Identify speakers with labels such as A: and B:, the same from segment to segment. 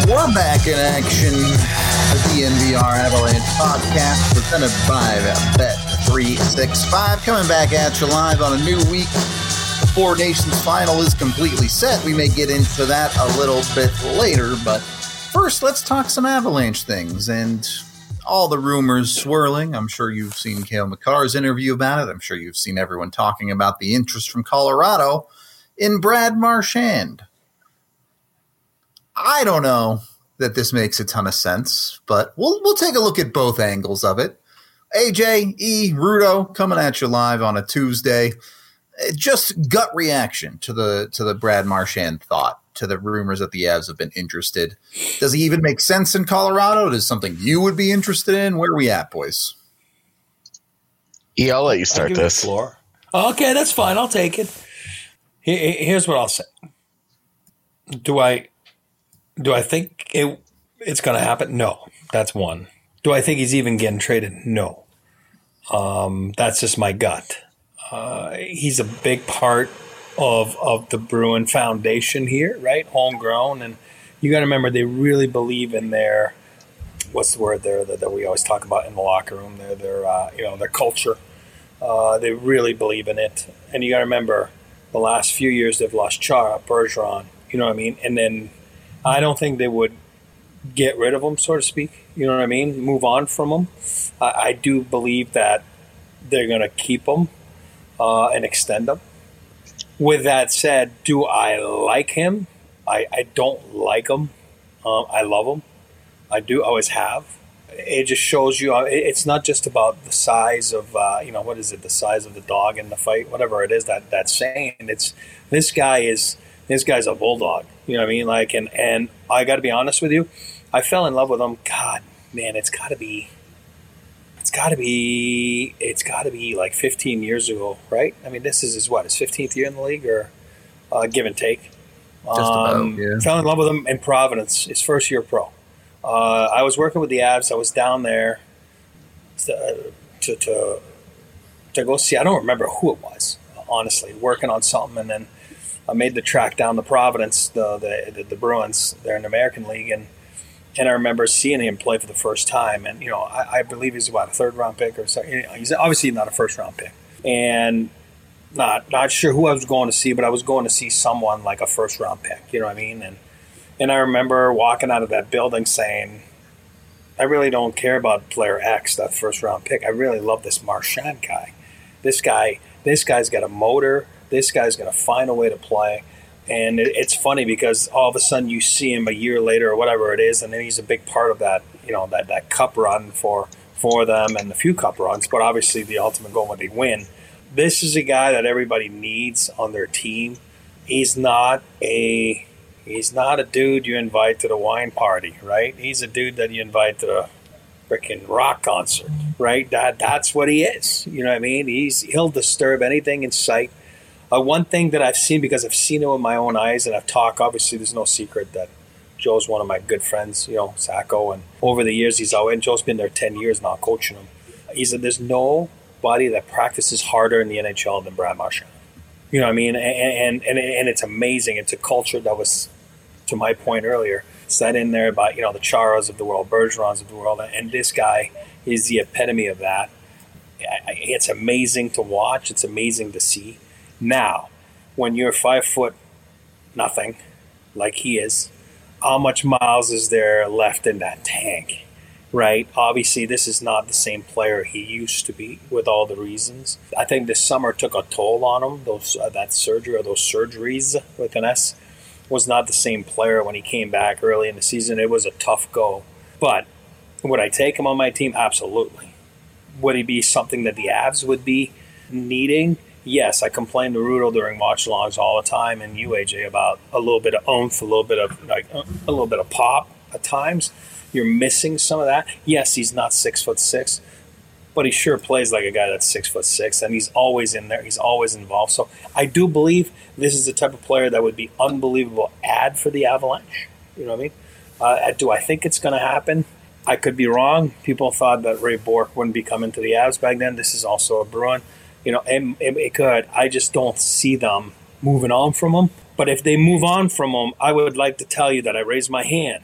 A: We're back in action. The DNVR Avalanche podcast presented by Bet365. Coming back at you live on a new week. The Four Nations final is completely set. We may get into that a little bit later, but first let's talk some Avalanche things and all the rumors swirling. I'm sure you've seen Cale Makar's interview about it. I'm sure you've seen everyone talking about the interest from Colorado in Brad Marchand. I don't know that this makes a ton of sense, but we'll take a look at both angles of it. AJ, Rudo, coming at you live on a Tuesday. Just gut reaction to the Brad Marchand thought, to the rumors that the Avs have been interested. Does he even make sense in Colorado? Is something you would be interested in? Where are we at, boys?
B: Yeah, I'll let you start this.
C: Floor. Okay, that's fine. I'll take it. Here's what I'll say. Do I think it's going to happen? No. That's one. Do I think he's even getting traded? No. That's just my gut. He's a big part of the Bruin foundation here, right? Homegrown. And you got to remember, they really believe in their, what's the word there that we always talk about in the locker room, their culture. They really believe in it. And you got to remember, the last few years they've lost Chara, Bergeron, you know what I mean? And then I don't think they would get rid of him, so to speak. You know what I mean? Move on from him. I do believe that they're going to keep him and extend him. With that said, do I like him? I don't like him. I love him. I do. Always have. It just shows you. It's not just about the size of what is it? The size of the dog in the fight, whatever it is that's saying. It's this guy's a bulldog. You know what I mean? Like, and I got to be honest with you, I fell in love with him. God, man, it's got to be like 15 years ago, right? I mean, this is his 15th year in the league, or give and take.
A: Just about, yeah.
C: Fell in love with him in Providence, his first year pro. I was working with the Avs. I was down there to go see. I don't remember who it was, honestly, working on something, and then I made the track down to Providence, the Bruins. They're in the American League, and I remember seeing him play for the first time. And I believe he's a third-round pick or something. He's obviously not a first-round pick, and not sure who I was going to see, but I was going to see someone like a first-round pick. You know what I mean? And I remember walking out of that building saying, I really don't care about player X, that first-round pick. I really love this Marchand guy. This guy's got a motor. This guy's going to find a way to play. And it's funny because all of a sudden you see him a year later or whatever it is, and then he's a big part of that, that cup run for them and the few cup runs, but obviously the ultimate goal when they win. This is a guy that everybody needs on their team. He's not a dude you invite to the wine party, right? He's a dude that you invite to the freaking rock concert, right? That's what he is. You know what I mean? He'll disturb anything in sight. One thing that I've seen, because I've seen it with my own eyes, and I've talked, obviously there's no secret that Joe's one of my good friends, Sacco, and over the years and Joe's been there 10 years now coaching him. He said there's nobody that practices harder in the NHL than Brad Marchand. You know what I mean? And it's amazing. It's a culture that was, to my point earlier, set in there by, the Charas of the world, Bergerons of the world, and this guy is the epitome of that. It's amazing to watch. It's amazing to see. Now, when you're 5'0", like he is, how much miles is there left in that tank, right? Obviously, this is not the same player he used to be, with all the reasons. I think this summer took a toll on him. That surgery, or those surgeries with an S, was not the same player when he came back early in the season. It was a tough go. But would I take him on my team? Absolutely. Would he be something that the Avs would be needing? Yes, I complain to Rudo during watch-alongs all the time, and you, AJ, about a little bit of oomph, a little bit of pop at times. You're missing some of that. Yes, he's not 6'6", but he sure plays like a guy that's 6'6", and he's always in there. He's always involved. So I do believe this is the type of player that would be unbelievable add for the Avalanche. You know what I mean? Do I think it's going to happen? I could be wrong. People thought that Ray Bourque wouldn't be coming to the Avs back then. This is also a Bruin. It could. I just don't see them moving on from him. But if they move on from him, I would like to tell you that I raise my hand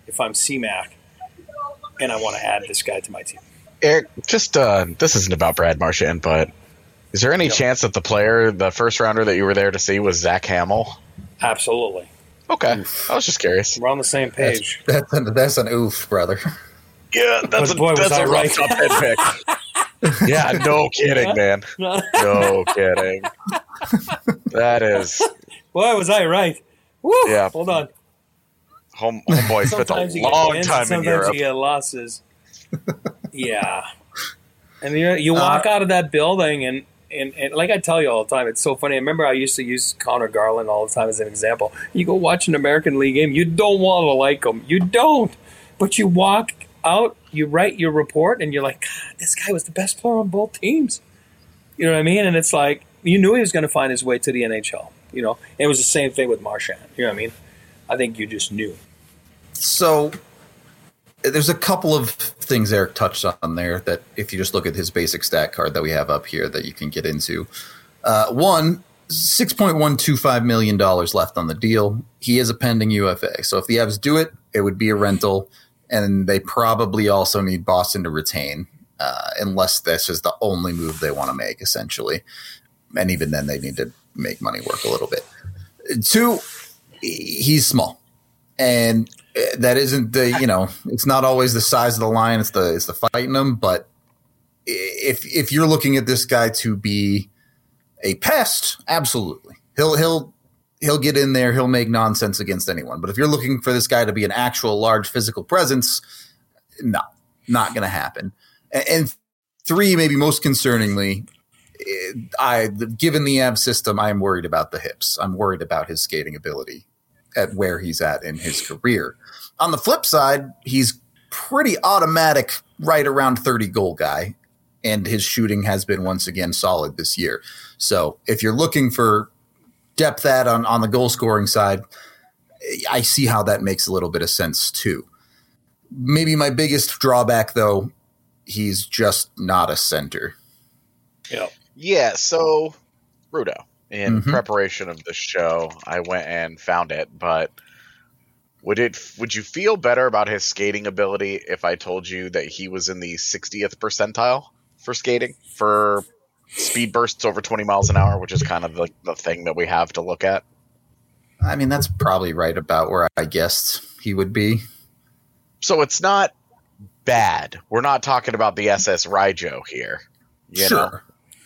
C: if I'm CMAC and I want to add this guy to my team.
B: Eric, just this isn't about Brad Marchand, but is there any chance that the first rounder that you were there to see was Zach Hamill?
C: Absolutely.
B: Okay, I was just curious.
C: We're on the same page.
A: That's an oof, brother.
B: Yeah, that's a rough top 10 pick. Yeah, no kidding, man. No kidding. That is.
C: Boy, was I right. Woo! Yeah. Hold on.
B: Homeboy spent a long time in Europe.
C: Sometimes you get losses. Yeah. And you walk out of that building and like I tell you all the time, it's so funny. I remember I used to use Connor Garland all the time as an example. You go watch an American League game, you don't want to like him. You don't. But you walk out, you write your report, and you're like, God, this guy was the best player on both teams. You know what I mean? And it's like, you knew he was going to find his way to the NHL. You know, and it was the same thing with Marchand. You know what I mean? I think you just knew.
A: So there's a couple of things Eric touched on there that if you just look at his basic stat card that we have up here that you can get into. One, $6.125 million left on the deal. He is a pending UFA. So if the Avs do it, it would be a rental. And they probably also need Boston to retain, unless this is the only move they want to make, essentially. And even then, they need to make money work a little bit. Two, he's small. And that isn't it's not always the size of the line, it's the fighting them. But if you're looking at this guy to be a pest, absolutely. He'll get in there, he'll make nonsense against anyone. But if you're looking for this guy to be an actual large physical presence, no, not going to happen. And three, maybe most concerningly, given the Avs system, I am worried about the hips. I'm worried about his skating ability at where he's at in his career. On the flip side, he's pretty automatic right around 30 goal guy, and his shooting has been once again solid this year. So if you're looking for depth on the goal scoring side, I see how that makes a little bit of sense too. Maybe my biggest drawback, though, he's just not a center.
B: Yeah, so Rudo, in preparation of the show, I went and found it, but would you feel better about his skating ability if I told you that he was in the 60th percentile for skating, for speed bursts over 20 miles an hour, which is kind of the thing that we have to look at?
A: I mean, that's probably right about where I guessed he would be.
B: So it's not bad. We're not talking about the SS Raijo here. You know?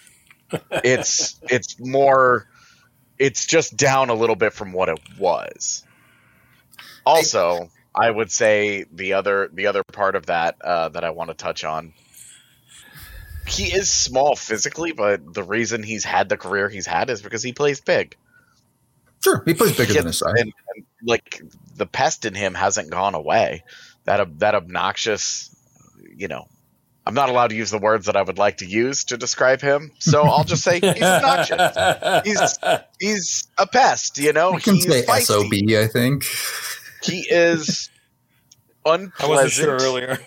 B: It's more, it's just down a little bit from what it was. Also, I would say the other part of that that I want to touch on, he is small physically, but the reason he's had the career he's had is because he plays big.
A: Sure, he plays bigger than his size.
B: And like, the pest in him hasn't gone away. That obnoxious, I'm not allowed to use the words that I would like to use to describe him, so I'll just say he's obnoxious. He's a pest,
A: You can
B: he's
A: say
B: feisty.
A: SOB, I think.
B: He is unpleasant.
C: I wasn't sure earlier.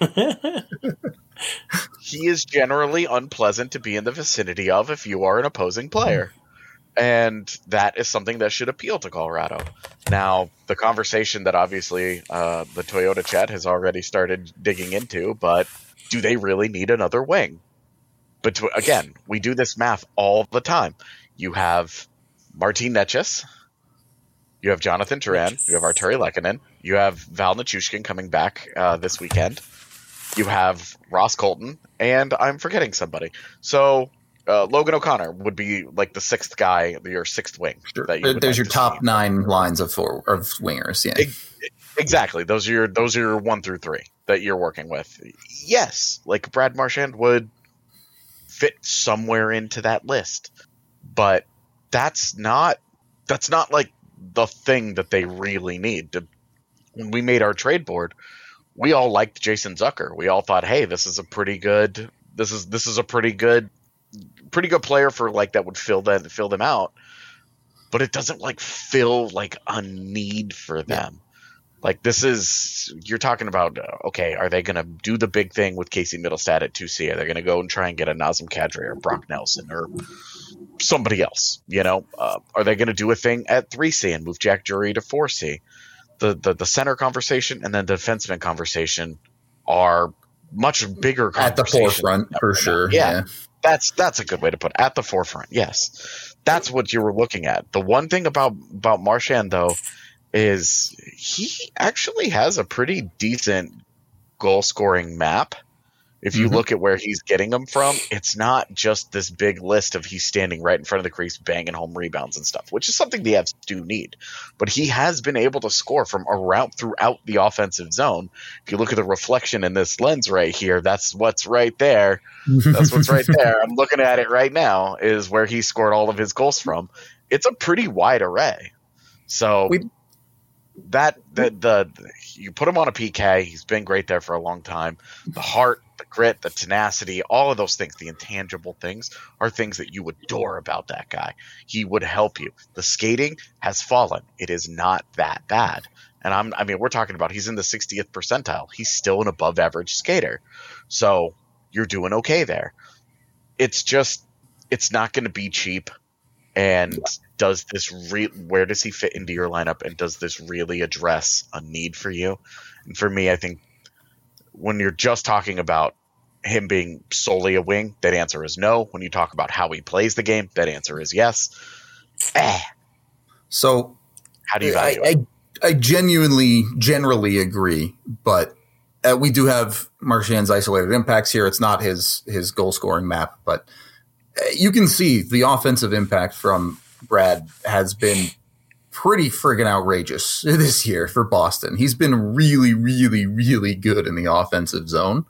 B: He is generally unpleasant to be in the vicinity of if you are an opposing player. And that is something that should appeal to Colorado. Now, the conversation that obviously the Toyota chat has already started digging into, but do they really need another wing? But again, we do this math all the time. You have Martin Necas, you have Jonathan Turan, you have Arturi Lehkonen, you have Val Nichushkin coming back this weekend, you have Ross Colton, and I'm forgetting somebody. So Logan O'Connor would be like the sixth guy, your sixth wing.
A: Sure. There's your top 9 lines of wingers. Yeah,
B: exactly. Those are your 1 through 3 that you're working with. Yes, like Brad Marchand would fit somewhere into that list, but that's not like the thing that they really need. When we made our trade board, we all liked Jason Zucker. We all thought, hey, this is a pretty good. This is a pretty good player for like that would fill them out, but it doesn't like fill like a need for them. Like you're talking about, okay, are they going to do the big thing with Casey Middlestad at 2C? Are they going to go and try and get a Nazem Kadri or Brock Nelson or somebody else? Are they going to do a thing at 3C and move Jack Drury to 4C? the center conversation and then the defenseman conversation are much bigger
A: at the forefront for sure.
B: Yeah. That's a good way to put it. At the forefront. Yes. That's what you were looking at. The one thing about Marchand though is he actually has a pretty decent goal scoring map. If you look at where he's getting them from, it's not just this big list of he's standing right in front of the crease, banging home rebounds and stuff, which is something the Avs do need. But he has been able to score from around throughout the offensive zone. If you look at the reflection in this lens right here, that's what's right there. That's what's right there. I'm looking at it right now is where he scored all of his goals from. It's a pretty wide array. So you put him on a PK. He's been great there for a long time. The heart, the grit, the tenacity, all of those things, the intangible things are things that you adore about that guy. He would help you. The skating has fallen. It is not that bad. And we're talking about he's in the 60th percentile. He's still an above average skater. So you're doing okay there. It's just, it's not going to be cheap. And where does he fit into your lineup? And does this really address a need for you? And for me, I think when you're just talking about him being solely a wing, that answer is no. When you talk about how he plays the game, that answer is yes.
A: So
B: how do you value it?
A: I generally agree, but we do have Marchand's isolated impacts here. It's not his goal scoring map, but you can see the offensive impact from Brad has been pretty friggin' outrageous this year for Boston. He's been really, really, really good in the offensive zone.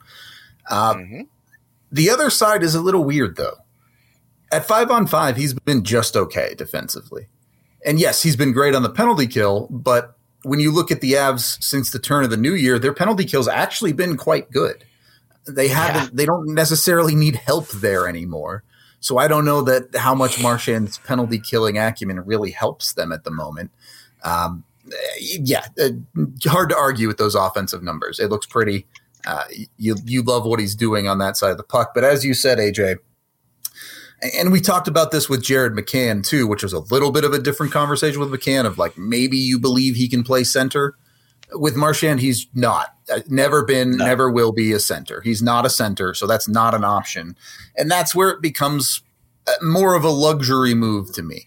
A: The other side is a little weird, though. At 5-on-5, he's been just okay defensively. And yes, he's been great on the penalty kill, but when you look at the Avs since the turn of the new year, their penalty kill's actually been quite good. They don't necessarily need help there anymore. So I don't know that how much Marchand's penalty killing acumen really helps them at the moment. Hard to argue with those offensive numbers. It looks pretty. You love what he's doing on that side of the puck. But as you said, AJ, and we talked about this with Jared McCann too, which was a little bit of a different conversation with McCann of like maybe you believe he can play center. With Marchand, he's not. Never been, never will be a center. He's not a center, so that's not an option. And that's where it becomes more of a luxury move to me.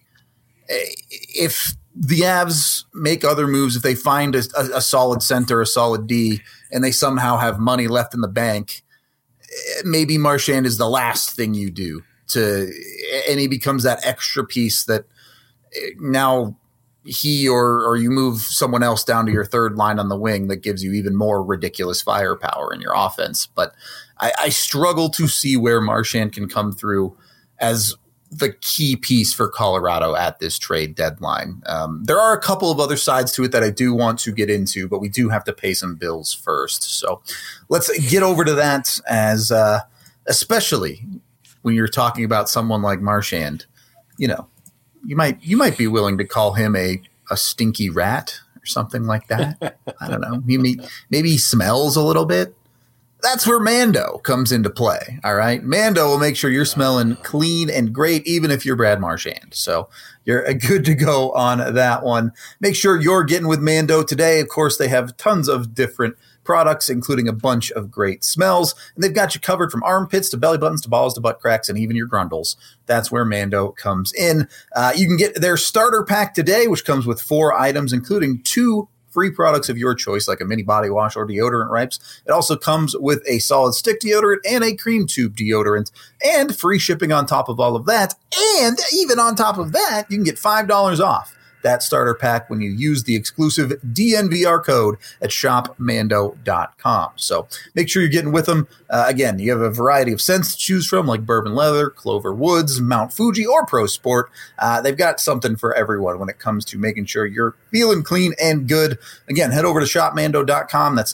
A: If the Avs make other moves, if they find a solid center, a solid D, and they somehow have money left in the bank, maybe Marchand is the last thing you do. And he becomes that extra piece that now – he or you move someone else down to your third line on the wing that gives you even more ridiculous firepower in your offense. But I struggle to see where Marchand can come through as the key piece for Colorado at this trade deadline. There are a couple of other sides to it that I do want to get into, but we do have to pay some bills first. So let's get over to that as especially when you're talking about someone like Marchand, you might be willing to call him a stinky rat or something like that. I don't know. Maybe he smells a little bit. That's where Mando comes into play. All right. Mando will make sure you're smelling clean and great, even if you're Brad Marchand. So you're good to go on that one. Make sure you're getting with Mando today. Of course, they have tons of different products, including a bunch of great smells. And they've got you covered from armpits to belly buttons to balls to butt cracks and even your grundles. That's where Mando comes in. You can get their starter pack today, which comes with 4 items, including 2 free products of your choice, like a mini body wash or deodorant wipes. It also comes with a solid stick deodorant and a cream tube deodorant and free shipping on top of all of that. And even on top of that, you can get $5 off that starter pack when you use the exclusive DNVR code at shopmando.com. So make sure you're getting with them. Again, you have a variety of scents to choose from, like Bourbon Leather, Clover Woods, Mount Fuji, or Pro Sport. They've got something for everyone when it comes to making sure you're feeling clean and good. Again, head over to shopmando.com. That's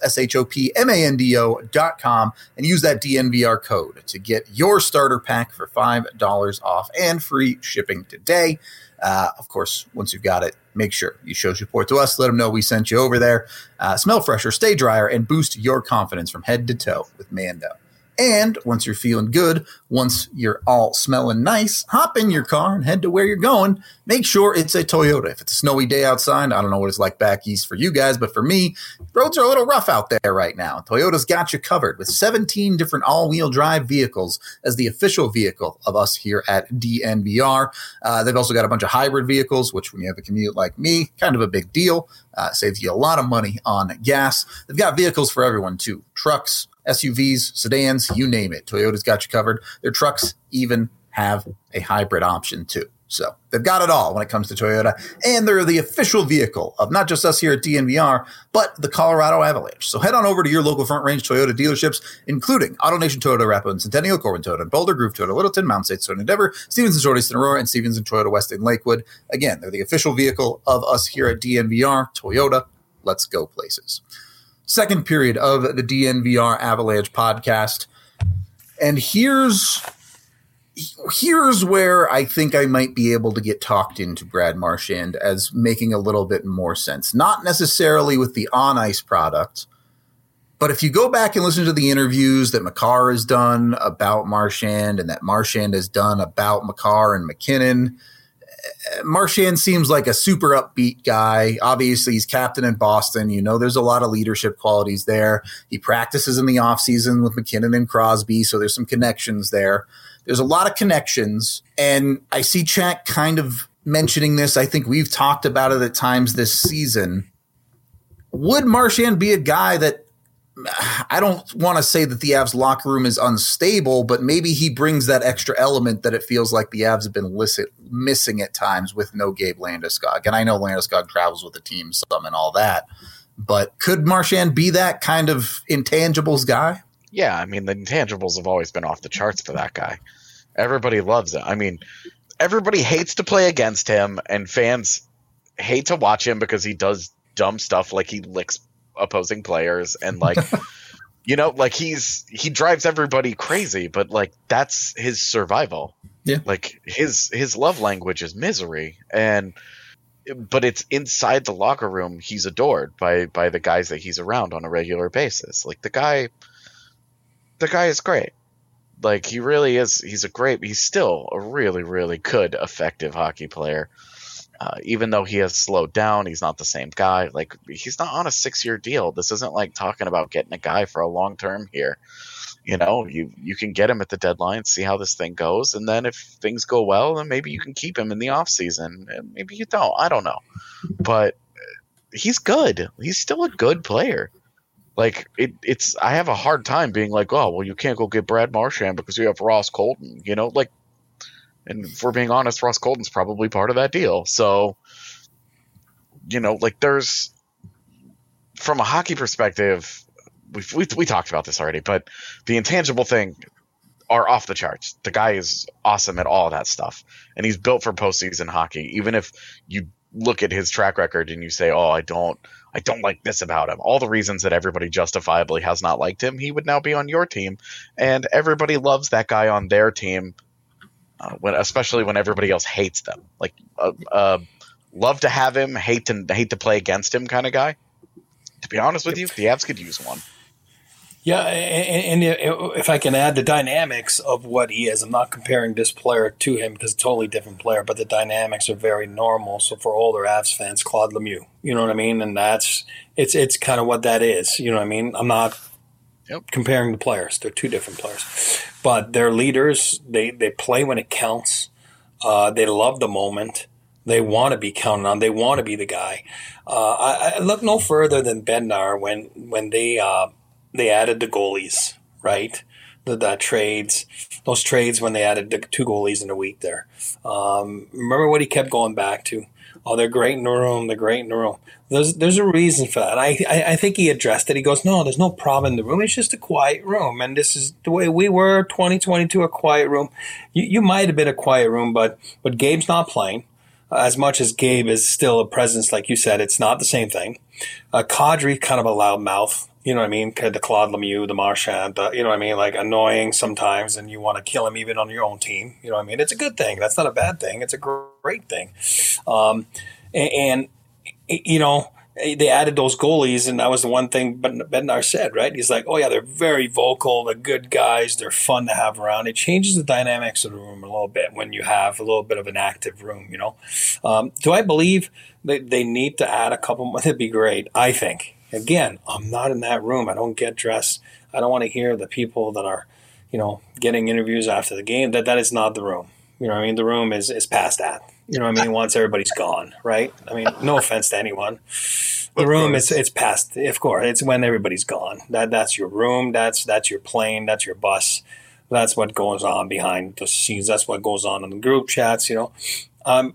A: shopmando.com and use that DNVR code to get your starter pack for $5 off and free shipping today. Of course, once you've got it, make sure you show support to us. Let them know we sent you over there. Smell fresher, stay drier, and boost your confidence from head to toe with Mando. And once you're feeling good, once you're all smelling nice, hop in your car and head to where you're going. Make sure it's a Toyota. If it's a snowy day outside, I don't know what it's like back east for you guys, but for me, roads are a little rough out there right now. Toyota's got you covered with 17 different all-wheel drive vehicles as the official vehicle of us here at DNVR. They've also got a bunch of hybrid vehicles, which when you have a commute like me, kind of a big deal. Saves you a lot of money on gas. They've got vehicles for everyone too. Trucks, SUVs, sedans, you name it. Toyota's got you covered. Their trucks even have a hybrid option too. So they've got it all when it comes to Toyota, and they're the official vehicle of not just us here at DNVR, but the Colorado Avalanche. So head on over to your local Front Range Toyota dealerships, including AutoNation Toyota, Arapahoe and Centennial, Corbin Toyota, and Boulder, Groove Toyota, Littleton, Mount St. Toyota, Endeavor, Stevens and Shorty, Aurora, and Stevens and Toyota West in Lakewood. Again, they're the official vehicle of us here at DNVR. Toyota, let's go places. Second period of the DNVR Avalanche podcast. And here's where I think I might be able to get talked into Brad Marchand as making a little bit more sense. Not necessarily with the on-ice product, but if you go back and listen to the interviews that Makar has done about Marchand and that Marchand has done about Makar and McKinnon, Marchand seems like a super upbeat guy. Obviously, he's captain in Boston. You know, there's a lot of leadership qualities there. He practices in the offseason with McKinnon and Crosby, so there's some connections there. There's a lot of connections, and I see Chat kind of mentioning this. I think we've talked about it at times this season. Would Marchand be a guy that I don't want to say that the Avs locker room is unstable, but maybe he brings that extra element that it feels like the Avs have been missing at times with no Gabe Landeskog. And I know Landeskog travels with the team some and all that, but could Marchand be that kind of intangibles guy?
B: Yeah, I mean, the intangibles have always been off the charts for that guy. Everybody loves it. I mean, everybody hates to play against him, and fans hate to watch him because he does dumb stuff like he licks opposing players and like you know, like he drives everybody crazy, but like that's his survival.
A: Yeah,
B: like his love language is misery, but it's inside the locker room. He's adored by the guys that he's around on a regular basis. Like the guy is great. Like he really is. He's still a really, really good, effective hockey player. Even though he has slowed down, he's not the same guy. Like he's not on a 6-year deal. This isn't like talking about getting a guy for a long term here. You know, you can get him at the deadline, see how this thing goes, and then if things go well, then maybe you can keep him in the off season. And maybe you don't. I don't know, but he's good. He's still a good player. Like it's. I have a hard time being like, oh well, you can't go get Brad Marchand because you have Ross Colton. You know, like. And if we're being honest, Ross Colton's probably part of that deal. So, you know, like there's, from a hockey perspective, we talked about this already, but the intangible thing are off the charts. The guy is awesome at all of that stuff. And he's built for postseason hockey. Even if you look at his track record and you say, oh, I don't like this about him. All the reasons that everybody justifiably has not liked him, he would now be on your team. And everybody loves that guy on their team. Especially when everybody else hates them, like love to have him, hate to play against him kind of guy. To be honest with you, the Avs could use one.
C: Yeah, and if I can add the dynamics of what he is, I'm not comparing this player to him because it's a totally different player, but the dynamics are very normal. So for older Avs fans, Claude Lemieux, you know what I mean, and it's kind of what that is. You know what I mean? I'm not. Yep. Comparing the players. They're two different players. But they're leaders. They play when it counts. They love the moment. They want to be counted on. They want to be the guy. I look no further than Bednar when they added the goalies, right? The trades. Those trades when they added the 2 goalies in a week there. Remember what he kept going back to? Oh, they're great in the room. They're great in the room. There's a reason for that. I think he addressed it. He goes, no, there's no problem in the room. It's just a quiet room. And this is the way we were, 2022, a quiet room. You might have been a quiet room, but Gabe's not playing. As much as Gabe is still a presence, like you said, it's not the same thing. Kadri, kind of a loud mouth. You know what I mean? The Claude Lemieux, the Marchand, you know what I mean? Like annoying sometimes, and you want to kill him even on your own team. You know what I mean? It's a good thing. That's not a bad thing. It's a great thing. And you know, they added those goalies, and that was the one thing Bednar said, right? He's like, oh, yeah, they're very vocal. They're good guys. They're fun to have around. It changes the dynamics of the room a little bit when you have a little bit of an active room, you know. Do I believe that they need to add a couple more? That'd be great, I think. Again, I'm not in that room. I don't get dressed. I don't want to hear the people that are, you know, getting interviews after the game. That is not the room. You know what I mean? The room is past that. You know what I mean? Once everybody's gone, right? I mean, no offense to anyone. The room it's past. Of course, it's when everybody's gone. That's your room. That's your plane. That's your bus. That's what goes on behind the scenes. That's what goes on in the group chats. You know,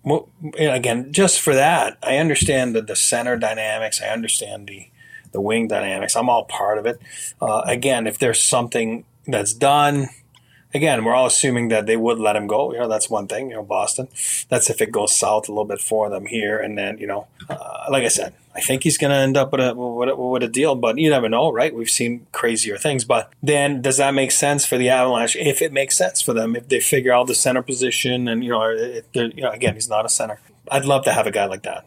C: again, just for that, I understand the center dynamics. I understand the wing dynamics. I'm all part of it. Again, if there's something that's done. Again, we're all assuming that they would let him go. You know, that's one thing, you know, Boston. That's if it goes south a little bit for them here. And then, you know, like I said, I think he's going to end up with a deal, but you never know, right? We've seen crazier things. But then does that make sense for the Avalanche? If it makes sense for them, if they figure out the center position and, you know, again, he's not a center. I'd love to have a guy like that.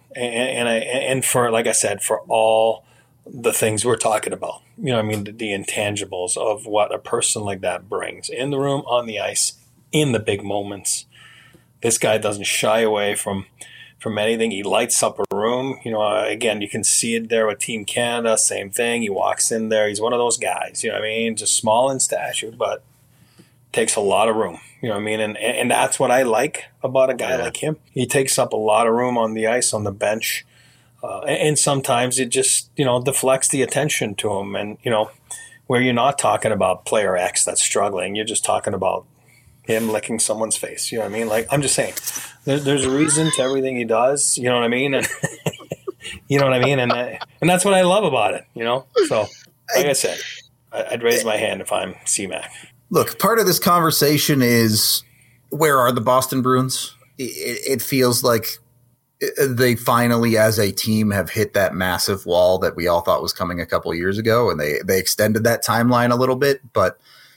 C: And for, like I said, for all the things we're talking about, you know what I mean, the intangibles of what a person like that brings in the room, on the ice, in the big moments. This guy doesn't shy away from anything. He lights up a room. You know, again, you can see it there with Team Canada, same thing. He walks in there. He's one of those guys, you know what I mean, just small in stature, but takes a lot of room. You know what I mean? And that's what I like about a guy like him. He takes up a lot of room on the ice, on the bench. And sometimes it just, you know, deflects the attention to him. And, you know, where you're not talking about player X that's struggling, you're just talking about him licking someone's face. You know what I mean? Like, I'm just saying, there's a reason to everything he does. You know what I mean? And you know what I mean? And that's what I love about it, you know? So, like I said, I'd raise my hand if I'm C-Mac.
A: Look, part of this conversation is, where are the Boston Bruins? It feels like they finally, as a team, have hit that massive wall that we all thought was coming a couple of years ago, and they extended that timeline a little bit. But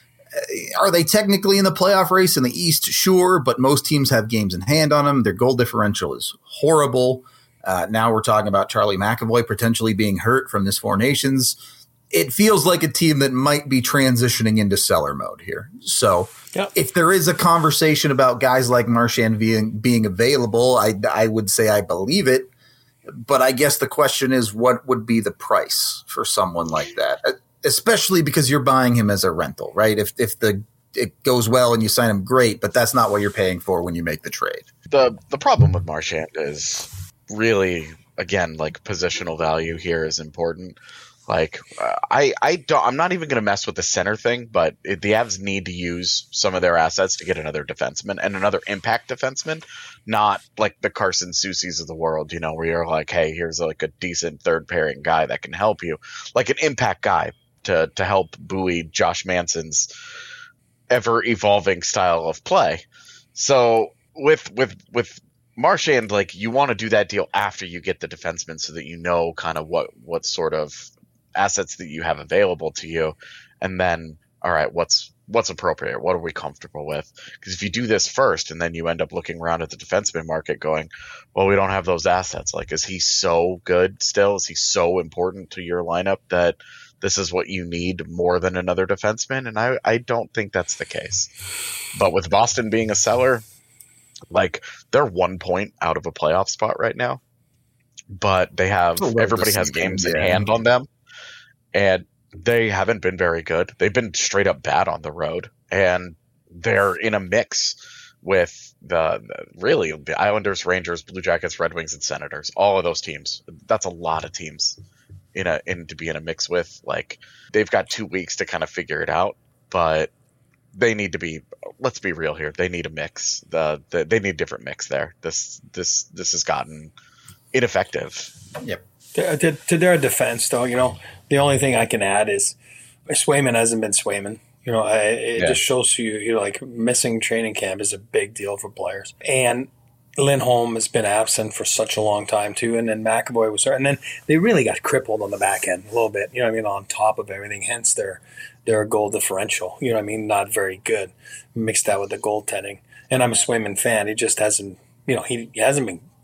A: are they technically in the playoff race in the East? Sure, but most teams have games in hand on them. Their goal differential is horrible. Now we're talking about Charlie McAvoy potentially being hurt from this Four Nations. It feels like a team that might be transitioning into cellar mode here. So if there is a conversation about guys like Marchand being available, I would say I believe it. But I guess the question is, what would be the price for someone like that? Especially because you're buying him as a rental, right? If it goes well and you sign him, great, but that's not what you're paying for when you make the trade.
B: The problem with Marchand is really, again, like, positional value here is important. Like, I'm not even going to mess with the center thing, but the Avs need to use some of their assets to get another defenseman and another impact defenseman, not like the Carson Soucies of the world, you know, where you're like, hey, here's like a decent third pairing guy that can help you, like an impact guy to help buoy Josh Manson's ever evolving style of play. So with Marchand, like, you want to do that deal after you get the defenseman so that you know kind of what sort of assets that you have available to you, and then, all right, what's appropriate? What are we comfortable with? Because if you do this first and then you end up looking around at the defenseman market going, well, we don't have those assets. Like, is he so good still? Is he so important to your lineup that this is what you need more than another defenseman? And I don't think that's the case. But with Boston being a seller, like, they're 1 point out of a playoff spot right now, but they have everybody has games in hand on them. And they haven't been very good. They've been straight up bad on the road. And they're in a mix with the Islanders, Rangers, Blue Jackets, Red Wings, and Senators. All of those teams. That's a lot of teams to be in a mix with. Like, they've got 2 weeks to kind of figure it out. But they need to be, let's be real here. They need a mix. They need a different mix there. This has gotten ineffective.
A: Yep.
C: To their defense, though, you know, the only thing I can add is Swayman hasn't been Swayman. You know, it just shows you, like, missing training camp is a big deal for players. And Lindholm has been absent for such a long time, too. And then McAvoy was there. And then they really got crippled on the back end a little bit, you know what I mean, on top of everything. Hence their goal differential, you know what I mean, not very good. Mixed that with the goaltending. And I'm a Swayman fan. He just hasn't, you know, he hasn't been, you know,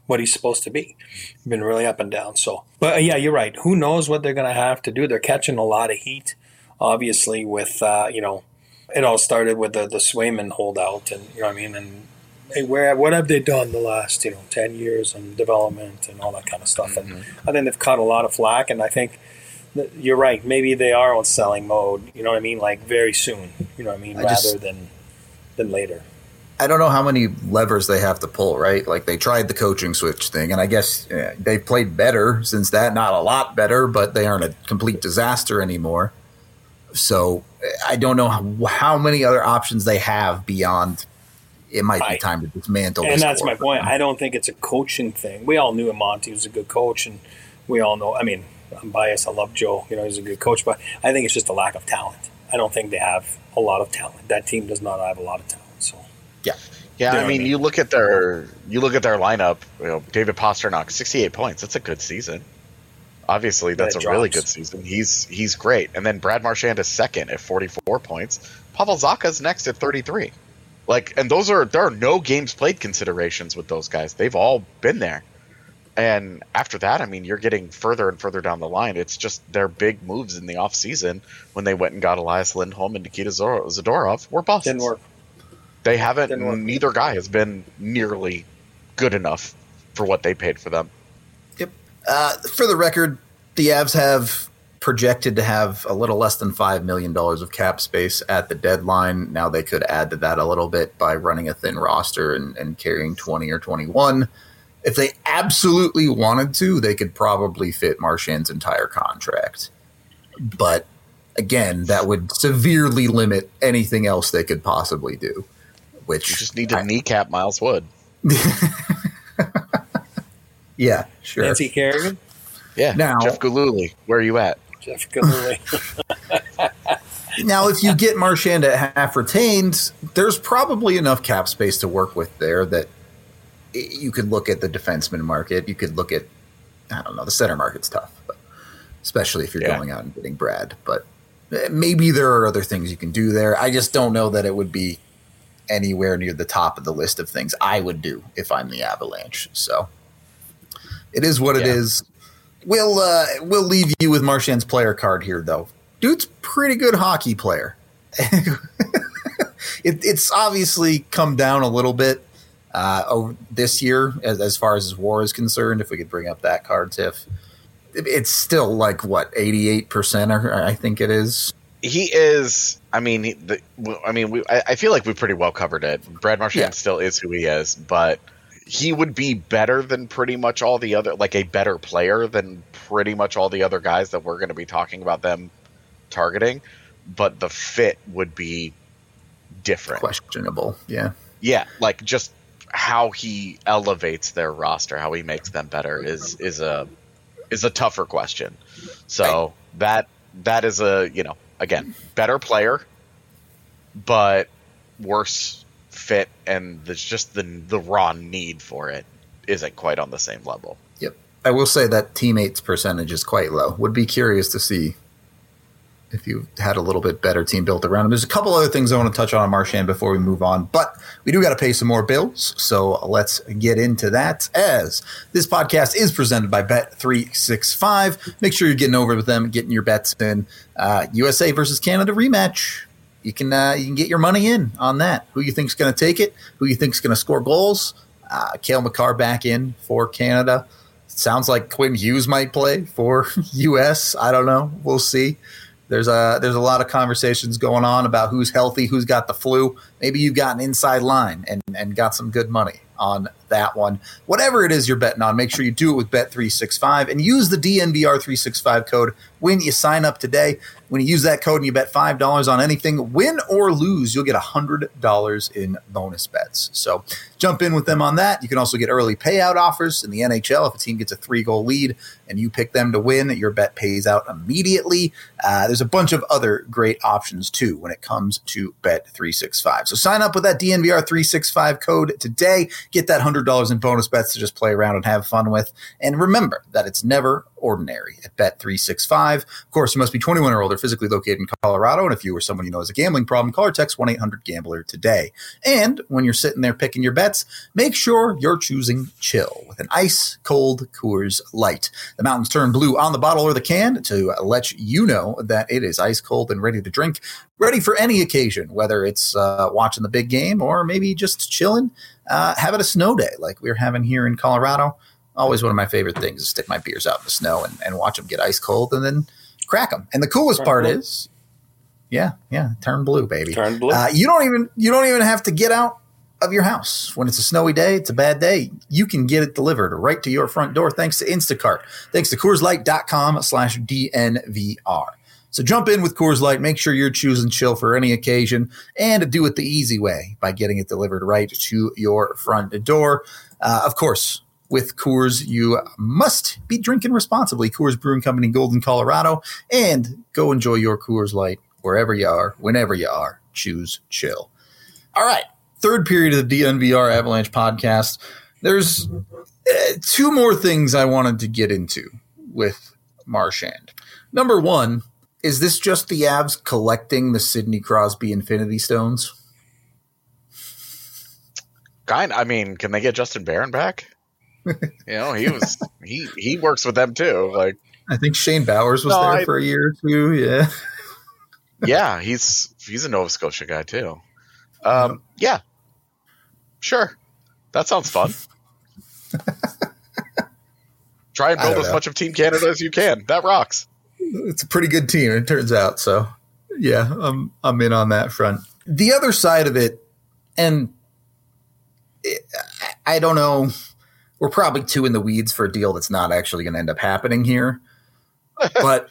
C: what he's supposed to be. Been really up and down. So, but yeah, you're right. Who knows what they're going to have to do? They're catching a lot of heat, obviously. With it all started with the Swayman holdout, and you know what I mean. And hey, what have they done the last 10 years and development and all that kind of stuff?
B: Mm-hmm.
C: And I think they've caught a lot of flack. And I think you're right. Maybe they are on selling mode. You know what I mean? Like very soon. You know what I mean? Rather than later.
A: I don't know how many levers they have to pull, right? Like they tried the coaching switch thing, and I guess they've played better since that. Not a lot better, but they aren't a complete disaster anymore. So I don't know how many other options they have beyond it might be time to dismantle this.
C: And that's my point. I don't think it's a coaching thing. We all knew Monty was a good coach, and we all know – I mean, I'm biased. I love Joe. He's a good coach, but I think it's just a lack of talent. I don't think they have a lot of talent. That team does not have a lot of talent. So
B: yeah. I mean, you look at their lineup. David Pastrnak, 68 points. That's a good season. Obviously, that's a really good season. He's great. And then Brad Marchand is second at 44 points. Pavel Zacha's next at 33. And there are no games played considerations with those guys. They've all been there. And after that, I mean, you're getting further and further down the line. It's just their big moves in the offseason when they went and got Elias Lindholm and Nikita Zadorov were busts.
C: Didn't work.
B: They haven't. Neither guy has been nearly good enough for what they paid for them.
A: Yep. For the record, the Avs have projected to have a little less than $5 million of cap space at the deadline. Now they could add to that a little bit by running a thin roster and carrying 20 or 21. If they absolutely wanted to, they could probably fit Marchand's entire contract. But again, that would severely limit anything else they could possibly do. Which
B: you just need to kneecap Miles Wood.
A: Yeah, sure.
C: Nancy Kerrigan?
B: Yeah.
A: Now,
B: Jeff Gillooly, where are you at?
C: Jeff Gillooly.
A: Now, if you get Marchand at half retained, there's probably enough cap space to work with there that you could look at the defenseman market. You could look at, I don't know, the center market's tough, but especially if you're going out and getting Brad. But maybe there are other things you can do there. I just don't know that it would be anywhere near the top of the list of things I would do if I'm the Avalanche. So it is what it is. We'll leave you with Marchand's player card here, though. Dude's pretty good hockey player. It's obviously come down a little bit over this year as far as his WAR is concerned. If we could bring up that card, Tiff, it's still 88%, I think it is.
B: He is. I feel like we pretty well covered it. Brad Marchand still is who he is, but he would be better than pretty much all the other, a better player than pretty much all the other guys that we're going to be talking about them targeting. But the fit would be different,
A: questionable. Yeah,
B: just how he elevates their roster, how he makes them better is a tougher question. So that is again, better player, but worse fit, and there's just the raw need for it isn't quite on the same level.
A: Yep. I will say that teammates percentage is quite low. Would be curious to see if you had a little bit better team built around him. There's a couple other things I want to touch on Marchand before we move on, but we do got to pay some more bills, so let's get into that, as this podcast is presented by Bet365. Make sure you're getting over with them, getting your bets in. USA versus Canada rematch. You can get your money in on that. Who you think's going to take it? Who you think's going to score goals? Cale Makar back in for Canada. Sounds like Quinn Hughes might play for US. I don't know. We'll see. There's a lot of conversations going on about who's healthy, who's got the flu. Maybe you've got an inside line and got some good money on that one. Whatever it is you're betting on, make sure you do it with Bet365 and use the DNVR365 code when you sign up today. When you use that code and you bet $5 on anything, win or lose, you'll get $100 in bonus bets. So jump in with them on that. You can also get early payout offers in the NHL. If a team gets a 3-goal lead and you pick them to win, your bet pays out immediately. There's a bunch of other great options too when it comes to Bet365. So sign up with that DNVR365 code today. Get that $100 in bonus bets to just play around and have fun with. And remember that it's never ordinary at Bet365. Of course, you must be 21 or older, physically located in Colorado, and if you or someone you know has a gambling problem, call or text 1-800-GAMBLER today. And when you're sitting there picking your bets, make sure you're choosing chill with an ice-cold Coors Light. The mountains turn blue on the bottle or the can to let you know that it is ice-cold and ready to drink, ready for any occasion, whether it's watching the big game or maybe just chilling, having a snow day like we're having here in Colorado. Always one of my favorite things is stick my beers out in the snow and watch them get ice cold and then crack them. And the coolest part is, turn blue, baby.
C: Turn blue.
A: You don't even have to get out of your house when it's a snowy day. It's a bad day. You can get it delivered right to your front door thanks to Instacart. Thanks to CoorsLight.com/DNVR. So jump in with Coors Light. Make sure you're choosing chill for any occasion and do it the easy way by getting it delivered right to your front door. Of course, with Coors, you must be drinking responsibly. Coors Brewing Company, Golden, Colorado. And go enjoy your Coors Light wherever you are, whenever you are. Choose chill. All right. Third period of the DNVR Avalanche podcast. There's two more things I wanted to get into with Marchand. Number one, is this just the Avs collecting the Sidney Crosby Infinity Stones?
B: I mean, can they get Justin Barron back? He works with them too. Like,
A: I think Shane Bowers was there for a year or two. Yeah.
B: Yeah, he's a Nova Scotia guy too. Yeah. Sure. That sounds fun. Try and build as much of Team Canada as you can. That rocks.
A: It's a pretty good team, it turns out. So, yeah, I'm in on that front. The other side of it, and I don't know, we're probably too in the weeds for a deal that's not actually going to end up happening here. But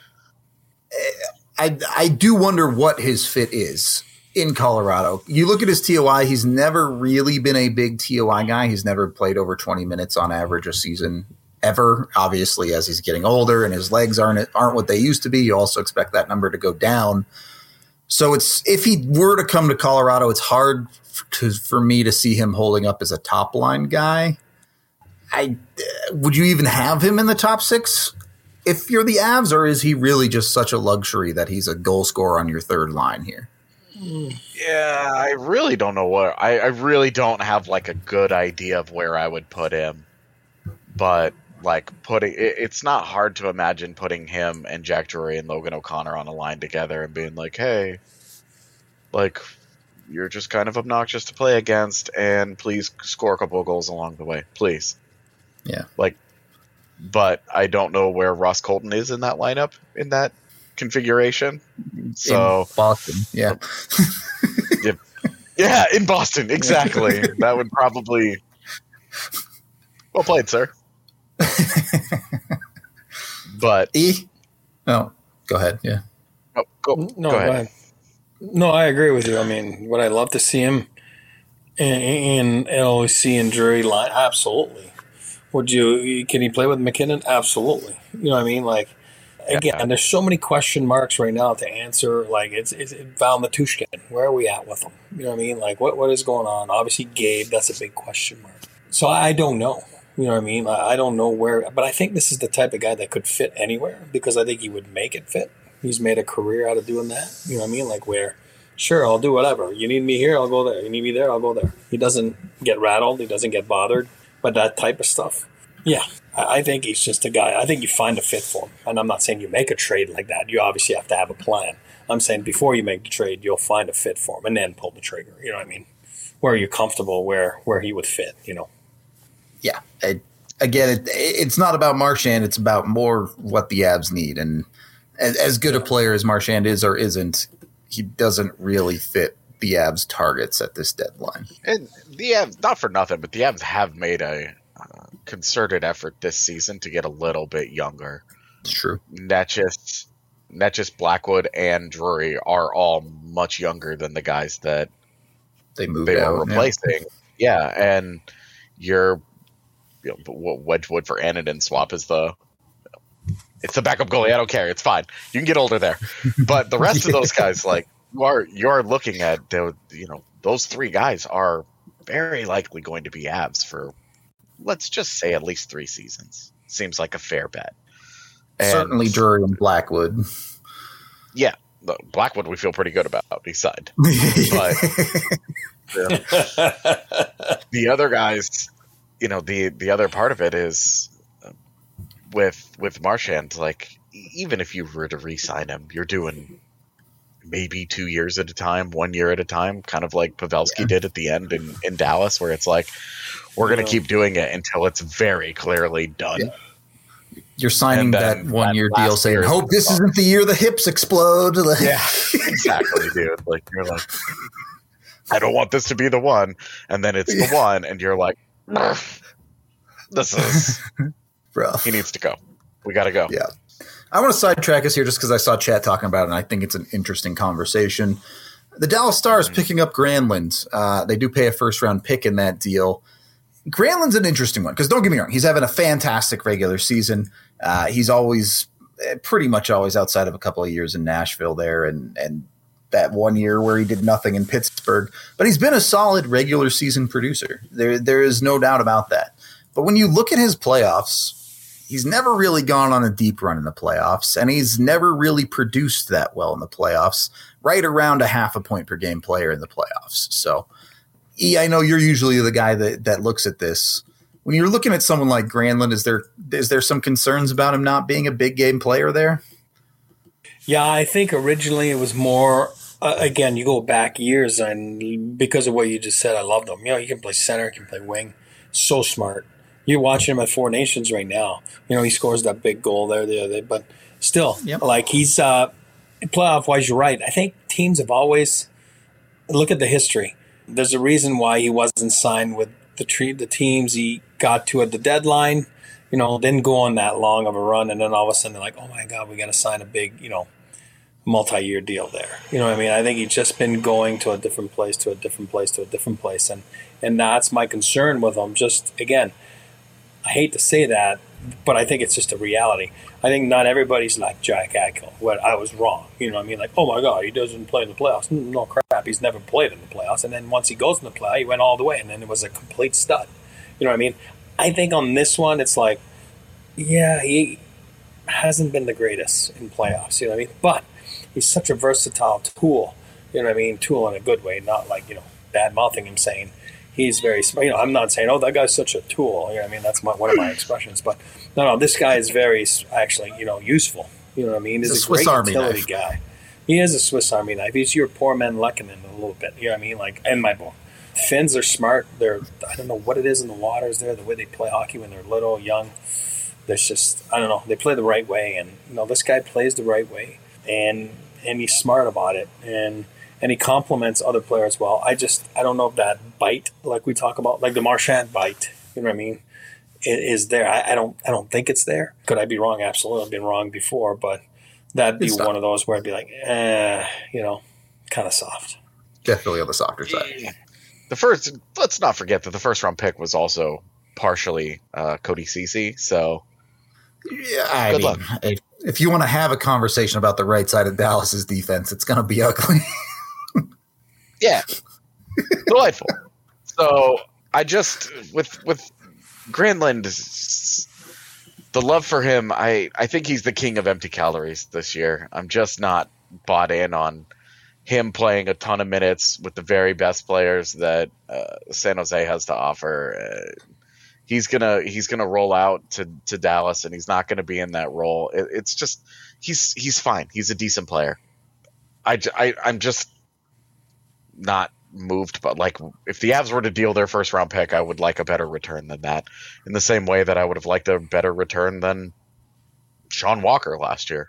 A: I do wonder what his fit is in Colorado. You look at his TOI, he's never really been a big TOI guy. He's never played over 20 minutes on average a season ever. Obviously, as he's getting older and his legs aren't what they used to be, you also expect that number to go down. So if he were to come to Colorado, it's hard for me to see him holding up as a top line guy. Would you even have him in the top six if you're the Avs, or is he really just such a luxury that he's a goal scorer on your third line here?
B: Yeah, I really don't know what I really don't have like a good idea of where I would put him, but like it's not hard to imagine putting him and Jack Drury and Logan O'Connor on a line together and being like, hey, like, you're just kind of obnoxious to play against, and please score a couple of goals along the way, please.
A: Yeah.
B: Like, but I don't know where Ross Colton is in that lineup, in that configuration. So
A: in Boston, yeah.
B: Yeah, in Boston, exactly. That would probably. Well played, sir. But
A: go ahead. Yeah.
B: Oh, go ahead.
C: No, I agree with you. I mean, would I love to see him in LOC and Drury line? Absolutely. Can he play with McKinnon? Absolutely. You know what I mean? Like, again, and there's so many question marks right now to answer. Like, it's Val Matushkin. Where are we at with him? You know what I mean? Like, what is going on? Obviously, Gabe, that's a big question mark. So I don't know. You know what I mean? I don't know where, but I think this is the type of guy that could fit anywhere because I think he would make it fit. He's made a career out of doing that. You know what I mean? Like, where, sure, I'll do whatever. You need me here, I'll go there. You need me there, I'll go there. He doesn't get rattled. He doesn't get bothered by that type of stuff. Yeah, I think he's just a guy. I think you find a fit for him. And I'm not saying you make a trade like that. You obviously have to have a plan. I'm saying before you make the trade, you'll find a fit for him and then pull the trigger. You know what I mean? Where you're comfortable, where he would fit, you know?
A: Yeah. Again, it's not about Marchand. It's about more what the Avs need. And as good a player as Marchand is or isn't, he doesn't really fit the Avs' targets at this deadline.
B: And the Avs, not for nothing, but the Avs have made a concerted effort this season to get a little bit younger.
A: It's true.
B: Not just Blackwood and Drury are all much younger than the guys that
A: they
B: were replacing. Yeah, and Wedgwood for Anadin swap is it's the backup goalie. I don't care. It's fine. You can get older there. But the rest of those guys, like, you're looking at, those three guys are very likely going to be Avs for, let's just say, at least 3 seasons. Seems like a fair bet.
A: Certainly Drury and Blackwood.
B: Yeah, Blackwood we feel pretty good about. He signed. But the other guys, the other part of it is with Marchand, like, even if you were to re-sign him, you're doing maybe 2 years at a time, 1 year at a time, kind of like Pavelski did at the end in Dallas, where it's like, we're going to keep doing it until it's very clearly done. Yeah.
A: You're signing that 1 year deal saying, hope this isn't the year the hips explode.
B: Yeah, exactly, dude. Like, you're like, I don't want this to be the one. And then it's the one, and you're like, this is
A: rough.
B: He needs to go. We got to go.
A: Yeah. I want to sidetrack us here just because I saw Chat talking about it, and I think it's an interesting conversation. The Dallas Stars picking up Granlund. They do pay a first-round pick in that deal. Granlund's an interesting one because don't get me wrong, he's having a fantastic regular season. He's always pretty much always outside of a couple of years in Nashville there and that 1 year where he did nothing in Pittsburgh. But he's been a solid regular season producer. There is no doubt about that. But when you look at his playoffs, he's never really gone on a deep run in the playoffs, and he's never really produced that well in the playoffs, right around a half a point per game player in the playoffs. So I know you're usually the guy that looks at this. When you're looking at someone like Granlund, is there some concerns about him not being a big game player there?
C: Yeah, I think originally it was more, again, you go back years, and because of what you just said, I loved him. He can play center, he can play wing. So smart. You're watching him at Four Nations right now. He scores that big goal there the other day, but still, like, he's playoff-wise, you're right. I think teams have always – look at the history. There's a reason why he wasn't signed with the teams he got to at the deadline. Didn't go on that long of a run, and then all of a sudden they're like, oh my God, we got to sign a big, multi-year deal there. I think he's just been going to a different place, to a different place, to a different place, and that's my concern with him. Just, again, I hate to say that, but I think it's just a reality. I think not everybody's like Jack Eichel. What I was wrong. Like, oh my God, he doesn't play in the playoffs. No crap, he's never played in the playoffs. And then once he goes in the playoffs, he went all the way, and then it was a complete stud. I think on this one, it's like, yeah, he hasn't been the greatest in playoffs. But he's such a versatile tool. Tool in a good way, not like bad mouthing him saying. He's very smart. I'm not saying, oh, that guy's such a tool. That's one of my expressions. But no, this guy is very, actually, useful. He's
A: a
C: great
A: Swiss Army
C: utility
A: knife
C: guy. He is a Swiss Army knife. He's your poor man Lehkonen a little bit. Like, in my book. Finns are smart. I don't know what it is in the waters there, the way they play hockey when they're little, young. There's just, I don't know. They play the right way. And, this guy plays the right way. And he's smart about it. And he compliments other players well. I don't know if that bite, like we talk about, like the Marchand bite, is there. I don't think it's there. Could I be wrong? Absolutely. I've been wrong before, but that'd be one of those where I'd be like, kind of soft.
A: Definitely on the softer side.
B: Let's not forget that the first round pick was also partially Cody Ceci. So
A: yeah, good luck. If you want to have a conversation about the right side of Dallas's defense, it's going to be ugly.
B: Yeah, delightful. So I just with Granlund, the love for him, I think he's the king of empty calories this year. I'm just not bought in on him playing a ton of minutes with the very best players that San Jose has to offer. He's gonna roll out to Dallas, and he's not gonna be in that role. It's just he's fine. He's a decent player. I'm just not moved, but like if the Avs were to deal their first round pick, I would like a better return than that. In the same way that I would have liked a better return than Sean Walker last year.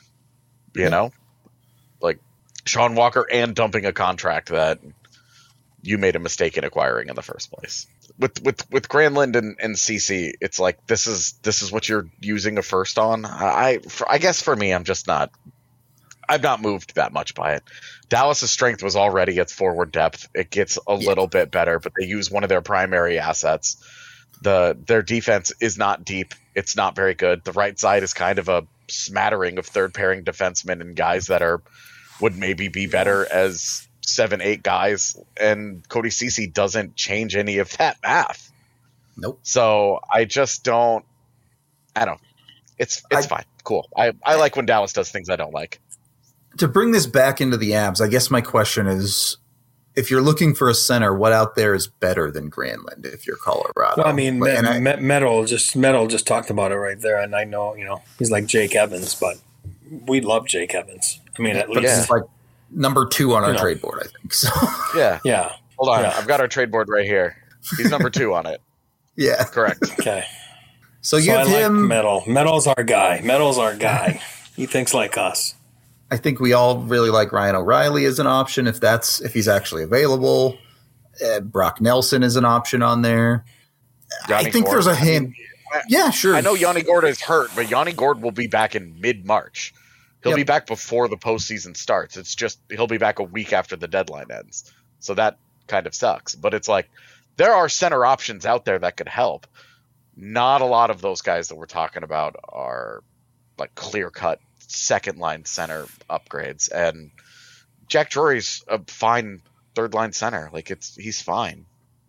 B: Like Sean Walker and dumping a contract that you made a mistake in acquiring in the first place. With Granlund and CC, it's like this is what you're using a first on. I guess for me, I'm not moved that much by it. Dallas's strength was already its forward depth. It gets a little bit better, but they use one of their primary assets. Their defense is not deep. It's not very good. The right side is kind of a smattering of third pairing defensemen and guys that would maybe be better as 7-8 guys, and Cody Ceci doesn't change any of that math.
A: Nope.
B: So I just don't. I don't. It's fine. cool. I like when Dallas does things I don't like.
A: To bring this back into the Avs, I guess my question is, if you're looking for a center, what out there is better than Granlund if you're Colorado?
C: Well, I mean, Metal just talked about it right there, and I know, he's like Jake Evans, but we love Jake Evans. I mean, at least
A: he's like number 2 on our trade board, I think. So
B: yeah. Hold on, I've got our trade board right here. He's number 2 on it.
A: Yeah,
B: correct.
C: Okay.
A: So you have him.
C: Metal. Metal's our guy. He thinks like us.
A: I think we all really like Ryan O'Reilly as an option if he's actually available. Brock Nelson is an option on there.
B: Yanni
A: I think
B: Gord,
A: there's a hand. Yeah, sure.
B: I know Yanni Gord is hurt, but Yanni Gord will be back in mid-March. He'll be back before the postseason starts. It's just he'll be back a week after the deadline ends. So that kind of sucks. But it's like there are center options out there that could help. Not a lot of those guys that we're talking about are like clear-cut second-line center upgrades. And Jack Drury's a fine third-line center. Like he's fine.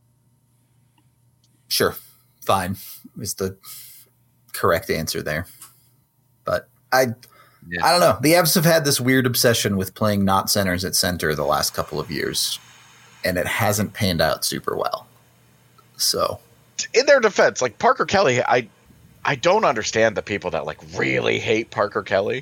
A: Sure. Fine is the correct answer there. But I don't know. The Avs have had this weird obsession with playing not centers at center the last couple of years, and it hasn't panned out super well. So,
B: in their defense, like Parker Kelly, I don't understand the people that like really hate Parker Kelly.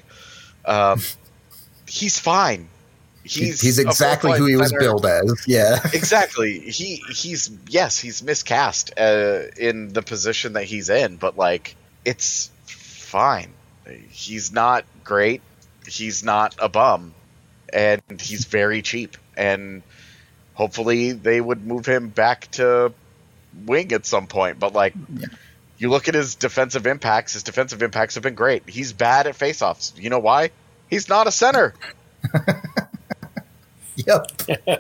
B: He's fine. He's
A: exactly who he was billed as. Yeah,
B: exactly. He's miscast in the position that he's in, but like it's fine. He's not great. He's not a bum, and he's very cheap. And hopefully they would move him back to wing at some point. But like, you look at his defensive impacts. His defensive impacts have been great. He's bad at faceoffs. You know why? He's not a center.
A: Yep.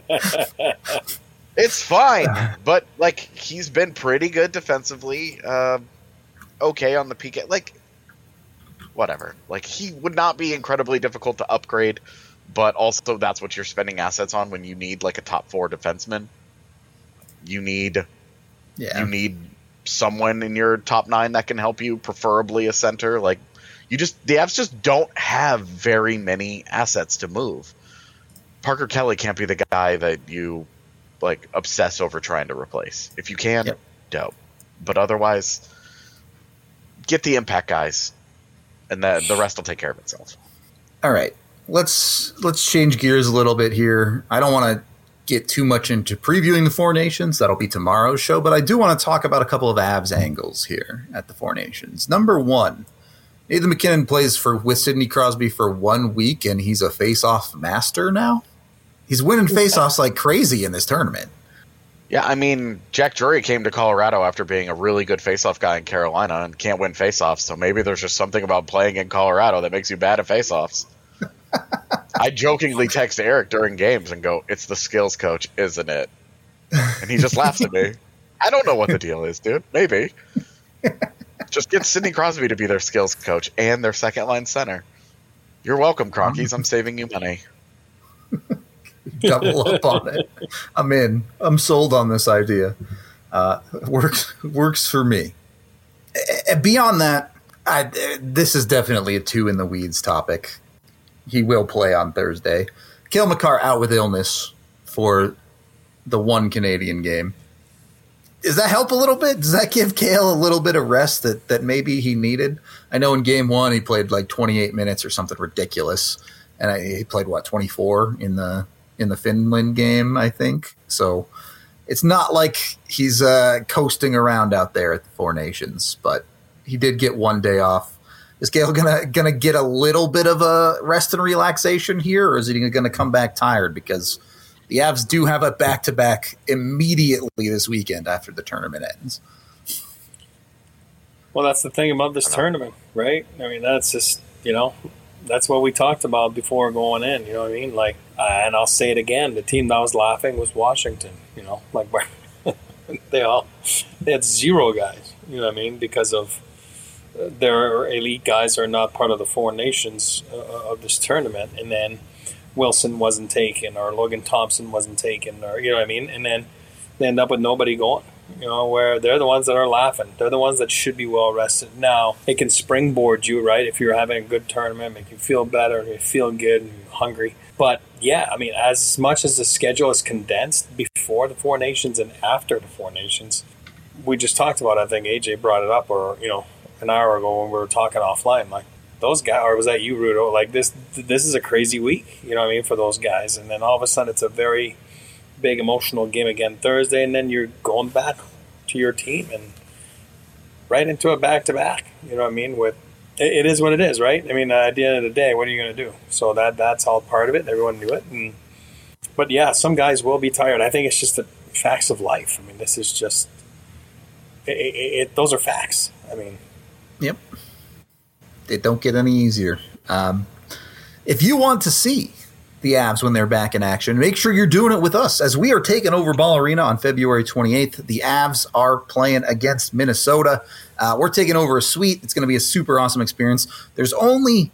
B: It's fine, but like he's been pretty good defensively. Okay on the PK. Like whatever. Like he would not be incredibly difficult to upgrade, but also that's what you're spending assets on when you need like a top 4 defenseman. You need someone in your top 9 that can help you, preferably a center. Like the Avs just don't have very many assets to move. Parker Kelly can't be the guy that you like obsess over trying to replace. If you can, dope. But otherwise, get the impact guys, and the rest will take care of itself.
A: All right, let's change gears a little bit here. I don't want to get too much into previewing the Four Nations. That'll be tomorrow's show. But I do want to talk about a couple of Avs angles here at the Four Nations. Number 1, Nathan MacKinnon plays with Sidney Crosby for 1 week, and he's a face-off master now. He's winning face-offs like crazy in this tournament.
B: Yeah, I mean, Jack Drury came to Colorado after being a really good face-off guy in Carolina and can't win face-offs, so maybe there's just something about playing in Colorado that makes you bad at face-offs. I jokingly text Eric during games and go, "It's the skills coach, isn't it?" And he just laughs at me. I don't know what the deal is, dude. Maybe. Just get Sidney Crosby to be their skills coach and their second-line center. You're welcome, Cronkies. I'm saving you money.
A: Double up on it. I'm in. I'm sold on this idea. Works for me. Beyond that, this is definitely a 2 in the weeds topic. He will play on Thursday. Cale Makar out with illness for the 1 Canadian game. Does that help a little bit? Does that give Cale a little bit of rest that maybe he needed? I know in game 1 he played like 28 minutes or something ridiculous, and he played 24 in the Finland game, I think. So it's not like he's coasting around out there at the Four Nations, but he did get 1 day off. Is Cale gonna get a little bit of a rest and relaxation here, or is he gonna come back tired? Because the Avs do have a back-to-back immediately this weekend after the tournament ends.
C: Well, that's the thing about this tournament, right? I mean, that's just, that's what we talked about before going in, you know what I mean? Like, and I'll say it again, the team that was laughing was Washington, like they had 0 guys, you know what I mean? Because of their elite guys are not part of the Four Nations of this tournament. And then Wilson wasn't taken, or Logan Thompson wasn't taken, or, you know what I mean? And then they end up with nobody going. where they're the ones that are laughing. They're the ones that should be well rested. Now, it can springboard you, right? If you're having a good tournament, make you feel better, you feel good, and you're hungry. But yeah, I mean, as much as the schedule is condensed before the Four Nations and after the Four Nations, we just talked about, I think AJ brought it up, or, an hour ago when we were talking offline, like, those guys, or was that you, Rudo? Like, this is a crazy week, for those guys. And then all of a sudden it's a very big emotional game again Thursday, and then you're going back to your team and right into a back-to-back, with it is what it is, right? I mean, at the end of the day, what are you going to do? So that's all part of it. Everyone knew it. But yeah, some guys will be tired. I think it's just the facts of life. I mean, this is just those are facts. I mean,
A: yep. They don't get any easier. If you want to see the Avs when they're back in action, make sure you're doing it with us, as we are taking over Ball Arena on February 28th. The Avs are playing against Minnesota. We're taking over a suite. It's going to be a super awesome experience. There's only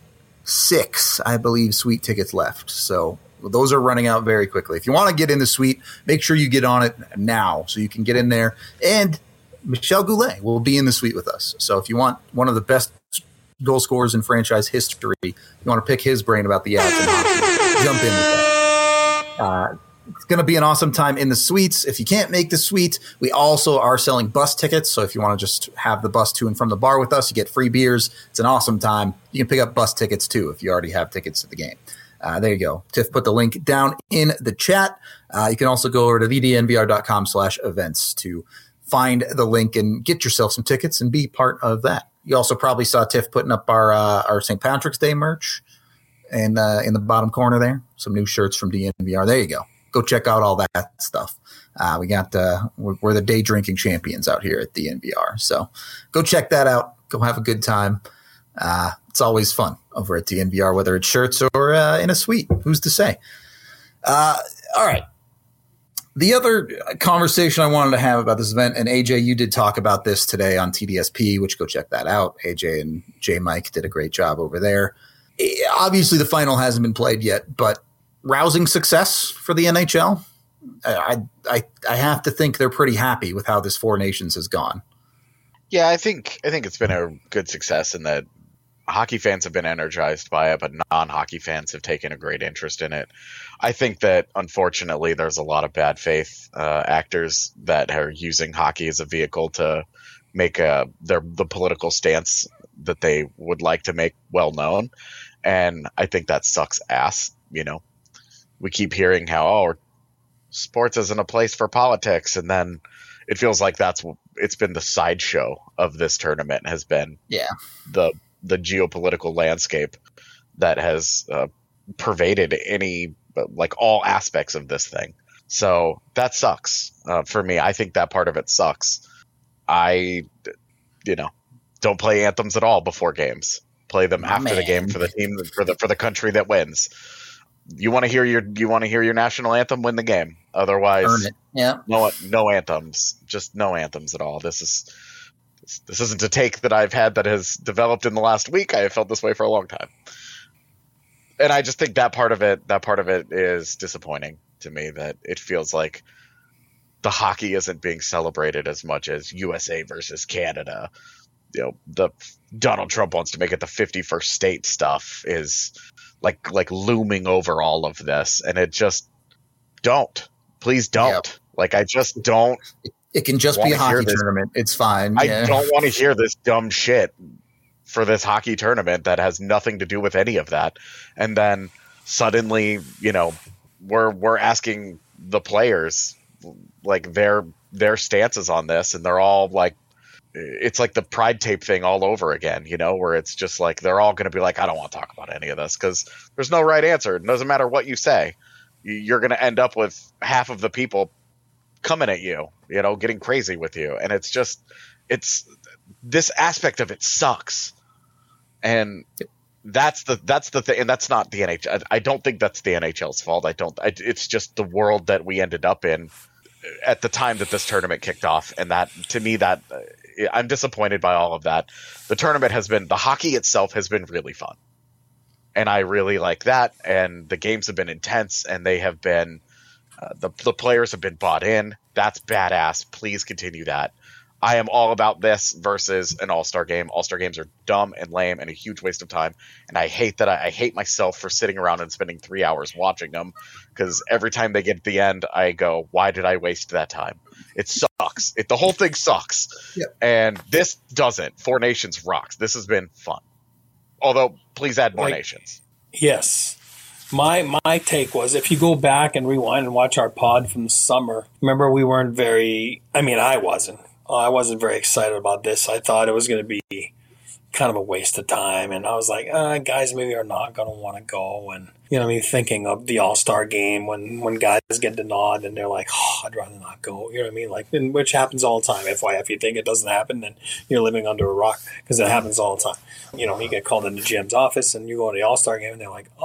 A: 6, I believe, suite tickets left, so those are running out very quickly. If you want to get in the suite, make sure you get on it now so you can get in there. And Michel Goulet will be in the suite with us. So if you want one of the best goal scorers in franchise history, you want to pick his brain about the Avs and hockey, jump in with that. It's going to be an awesome time in the suites. If you can't make the suite, we also are selling bus tickets. So if you want to just have the bus to and from the bar with us, you get free beers. It's an awesome time. You can pick up bus tickets too if you already have tickets to the game. There you go. Tiff put the link down in the chat. You can also go over to vdnvr.com/events to find the link and get yourself some tickets and be part of that. You also probably saw Tiff putting up our St. Patrick's Day merch and in the bottom corner there. Some new shirts from DNVR. There you go. Go check out all that stuff. We got we're the day drinking champions out here at DNVR. So go check that out. Go have a good time. It's always fun over at DNVR, whether it's shirts or in a suite. Who's to say? All right. The other conversation I wanted to have about this event, and AJ, you did talk about this today on TDSP, which go check that out. AJ and J Mike did a great job over there. Obviously, the final hasn't been played yet, but rousing success for the NHL. I have to think they're pretty happy with how this Four Nations has gone.
B: Yeah, I think it's been a good success in that hockey fans have been energized by it, but non-hockey fans have taken a great interest in it. I think that, unfortunately, there's a lot of bad faith actors that are using hockey as a vehicle to make the political stance that they would like to make well known, and I think that sucks ass. We keep hearing how sports isn't a place for politics, and then it feels like it's been the sideshow of this tournament has been the geopolitical landscape that has pervaded all aspects of this thing. So that sucks for me. I think that part of it sucks. I don't play anthems at all before games. Play them after the game for the team, for the country that wins. You want to hear your national anthem, win the game. Otherwise,
A: earn it. Yeah.
B: No anthems. Just no anthems at all. This isn't a take that I've had that has developed in the last week. I have felt this way for a long time. And I just think that part of it is disappointing to me, that it feels like the hockey isn't being celebrated as much as USA versus Canada. The Donald Trump wants to make it the 51st state stuff is like looming over all of this. And it just please don't. Yep. I just don't.
A: It can just be a hockey tournament. It's fine.
B: I don't want to hear this dumb shit for this hockey tournament that has nothing to do with any of that. And then suddenly, we're asking the players their stances on this, and they're all it's like the pride tape thing all over again, where it's just they're all going to be I don't want to talk about any of this because there's no right answer. It doesn't matter what you say. You're going to end up with half of the people coming at you, getting crazy with you. And it's this aspect of it sucks. And that's the thing. And that's not the NHL. I don't think that's the NHL's fault. It's just the world that we ended up in at the time that this tournament kicked off. And that, to me, I'm disappointed by all of that. The hockey itself has been really fun. And I really like that. And the games have been intense, and they have been The players have been bought in. That's badass. Please continue that. I am all about this versus an All-Star game. All-Star games are dumb and lame and a huge waste of time. And I hate that. I hate myself for sitting around and spending 3 hours watching them, because every time they get to the end, I go, why did I waste that time? It sucks. The whole thing sucks.
A: Yep.
B: And this doesn't. Four Nations rocks. This has been fun. Although, please add more nations.
C: Yes. My take was, if you go back and rewind and watch our pod from the summer, remember we weren't very – I wasn't very excited about this. I thought it was going to be kind of a waste of time. And I was like, guys maybe are not going to want to go. And, thinking of the All-Star game when guys get the nod and they're like, I'd rather not go. You know what I mean? Like, which happens all the time. If you think it doesn't happen, then you're living under a rock, because it happens all the time. You get called into GM's office and you go to the All-Star game and they're like,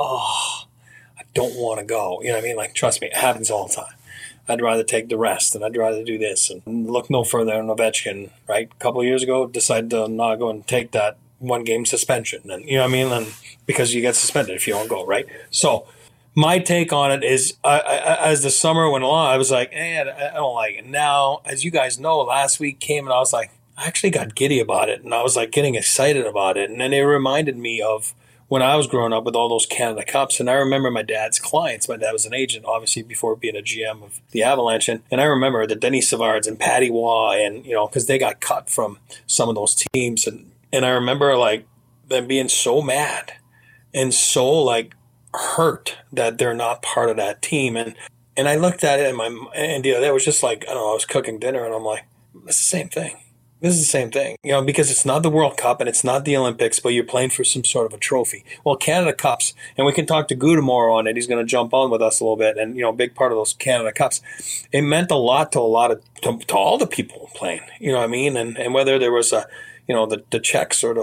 C: I don't want to go. You know what I mean? Like, trust me, it happens all the time. I'd rather take the rest, and I'd rather do this. And look no further than Ovechkin, right? A couple of years ago, decided to not go and take that one-game suspension. And, and because you get suspended if you don't go, right? So my take on it is, as the summer went along, I was like, I don't like it. Now, as you guys know, last week came and I was like, I actually got giddy about it. And I was like getting excited about it. And then it reminded me of when I was growing up with all those Canada Cups. And I remember my dad's clients. My dad was an agent, obviously, before being a GM of the Avalanche. And I remember the Denis Savards and Patty Waugh, and, because they got cut from some of those teams. And I remember, like, them being so mad and so, like, hurt that they're not part of that team. And I looked at it, and it was just like, I don't know, I was cooking dinner, and I'm like, it's the same thing. This is the same thing, because it's not the World Cup and it's not the Olympics, but you're playing for some sort of a trophy. Well, Canada Cups, and we can talk to Gu tomorrow on it. He's going to jump on with us a little bit, and a big part of those Canada Cups, it meant a lot to to all the people playing. You know what I mean? And whether there was the Czechs or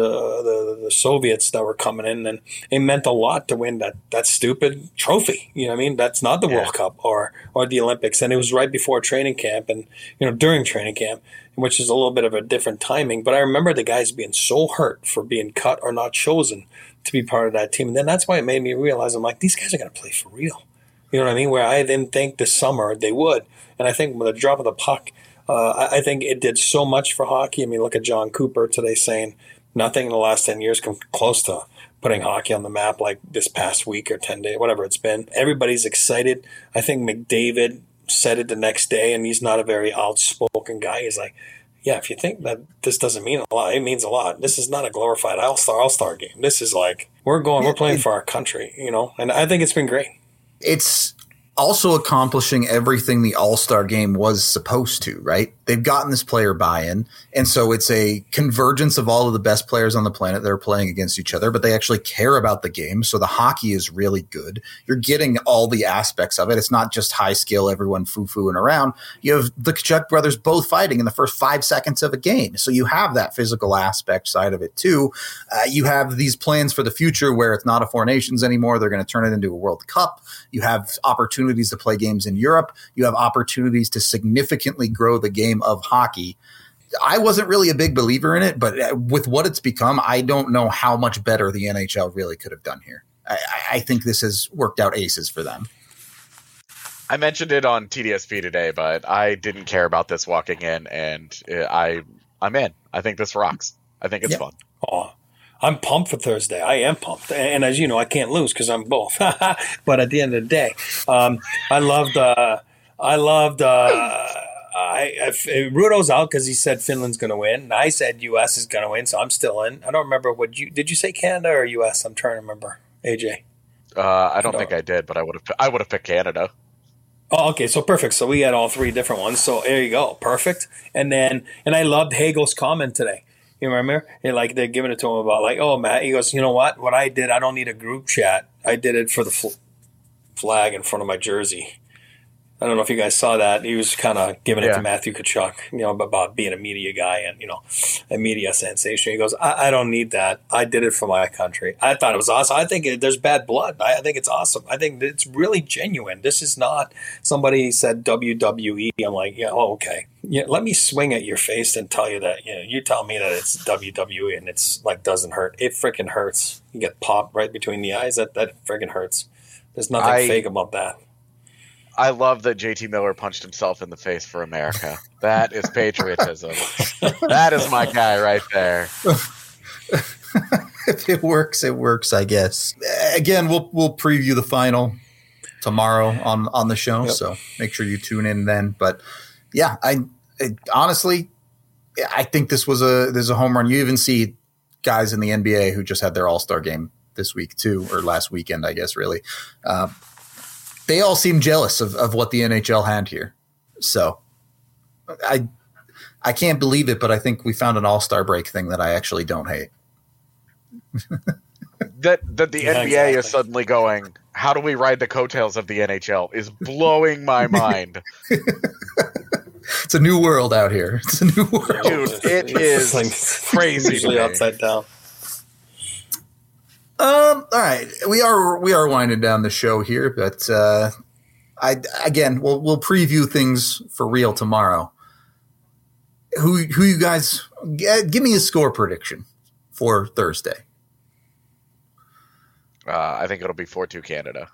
C: the Soviets that were coming in, and it meant a lot to win that stupid trophy. You know what I mean? That's not the World Cup or the Olympics. And it was right before training camp, and during training camp, which is a little bit of a different timing. But I remember the guys being so hurt for being cut or not chosen to be part of that team. And then that's why it made me realize, I'm like, these guys are going to play for real. You know what I mean? Where I didn't think this summer they would. And I think with the drop of the puck, I think it did so much for hockey. I mean, look at John Cooper today saying nothing in the last 10 years come close to putting hockey on the map like this past week or 10 days, whatever it's been. Everybody's excited. I think McDavid said it the next day, and he's not a very outspoken guy. He's like, yeah, if you think that this doesn't mean a lot, it means a lot. This is not a glorified All-Star game. This is like, we're playing for our country, and I think it's been great.
A: It's also accomplishing everything the All-Star game was supposed to, right? They've gotten this player buy-in, and so it's a convergence of all of the best players on the planet that are playing against each other, but they actually care about the game, so the hockey is really good. You're getting all the aspects of it. It's not just high skill, everyone foo-fooing around. You have the Kachuk brothers both fighting in the first 5 seconds of a game, so you have that physical aspect side of it too. You have these plans for the future where it's not a Four Nations anymore. They're going to turn it into a World Cup. You have opportunities to play games in Europe. You have opportunities to significantly grow the game of hockey. I wasn't really a big believer in it, but with what it's become, I don't know how much better the NHL really could have done here. I think this has worked out aces for them.
B: I mentioned it on TDSP today, but I didn't care about this walking in, and I'm in. I think this rocks. I think it's fun.
C: Oh, I'm pumped for Thursday. I am pumped. And as you know, I can't lose because I'm both. But at the end of the day, Rudo's out because he said Finland's going to win. And I said U.S. is going to win, so I'm still in. I don't remember did you say Canada or U.S.? I'm trying to remember. AJ.
B: I don't think I did, but I would have picked Canada.
C: Oh, okay. So perfect. So we had all 3 different ones. So there you go. Perfect. And I loved Hagel's comment today. You remember? And like they're giving it to him about like, oh, Matt, he goes, you know what? What I did, I don't need a group chat. I did it for the flag in front of my jersey. I don't know if you guys saw that. He was kind of giving it to Matthew Tkachuk, about being a media guy and, a media sensation. He goes, I don't need that. I did it for my country. I thought it was awesome. I think there's bad blood. I think it's awesome. I think it's really genuine. This is not somebody said WWE. I'm like, yeah, oh, okay. Yeah, let me swing at your face and tell you that, you tell me that it's WWE and it's like doesn't hurt. It freaking hurts. You get popped right between the eyes. That freaking hurts. There's nothing fake about that.
B: I love that JT Miller punched himself in the face for America. That is patriotism. That is my guy right there.
A: If it works, it works, I guess. Again, we'll preview the final tomorrow on the show, so make sure you tune in then. But yeah, I honestly, I think this was a home run. You even see guys in the NBA who just had their All-Star game this week too, or last weekend, I guess, really. They all seem jealous of what the NHL had here. So I can't believe it, but I think we found an All-Star break thing that I actually don't hate.
B: that the NBA is suddenly going, how do we ride the coattails of the NHL is blowing my mind.
A: It's a new world out here. It's a new world.
B: Dude, it is crazy.
C: Usually upside down.
A: All right, we are winding down the show here, but we'll preview things for real tomorrow. Who you guys give me a score prediction for Thursday?
B: I think it'll be 4-2 Canada.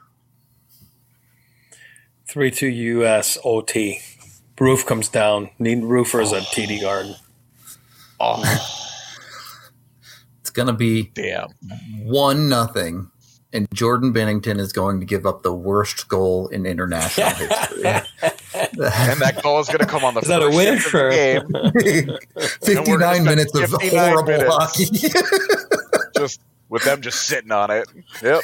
C: 3-2 U.S. OT. Roof comes down. Need roofers at TD Garden.
B: Oh,
A: it's gonna be
C: 1-0,
A: and Jordan Bennington is going to give up the worst goal in international history.
B: And that goal is going to come on the
C: is that a win for
B: game.
A: 59 minutes of horrible hockey.
B: Just with them just sitting on it. Yep.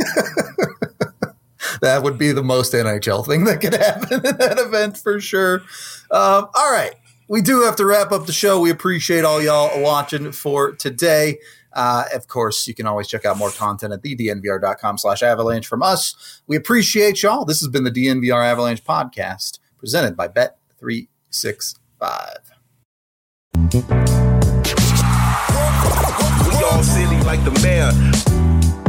A: That would be the most NHL thing that could happen in that event for sure. All right. We do have to wrap up the show. We appreciate all y'all watching for today. Of course, you can always check out more content at thednvr.com/avalanche from us. We appreciate y'all. This has been the DNVR Avalanche podcast presented by Bet365.
D: We all silly like the mayor.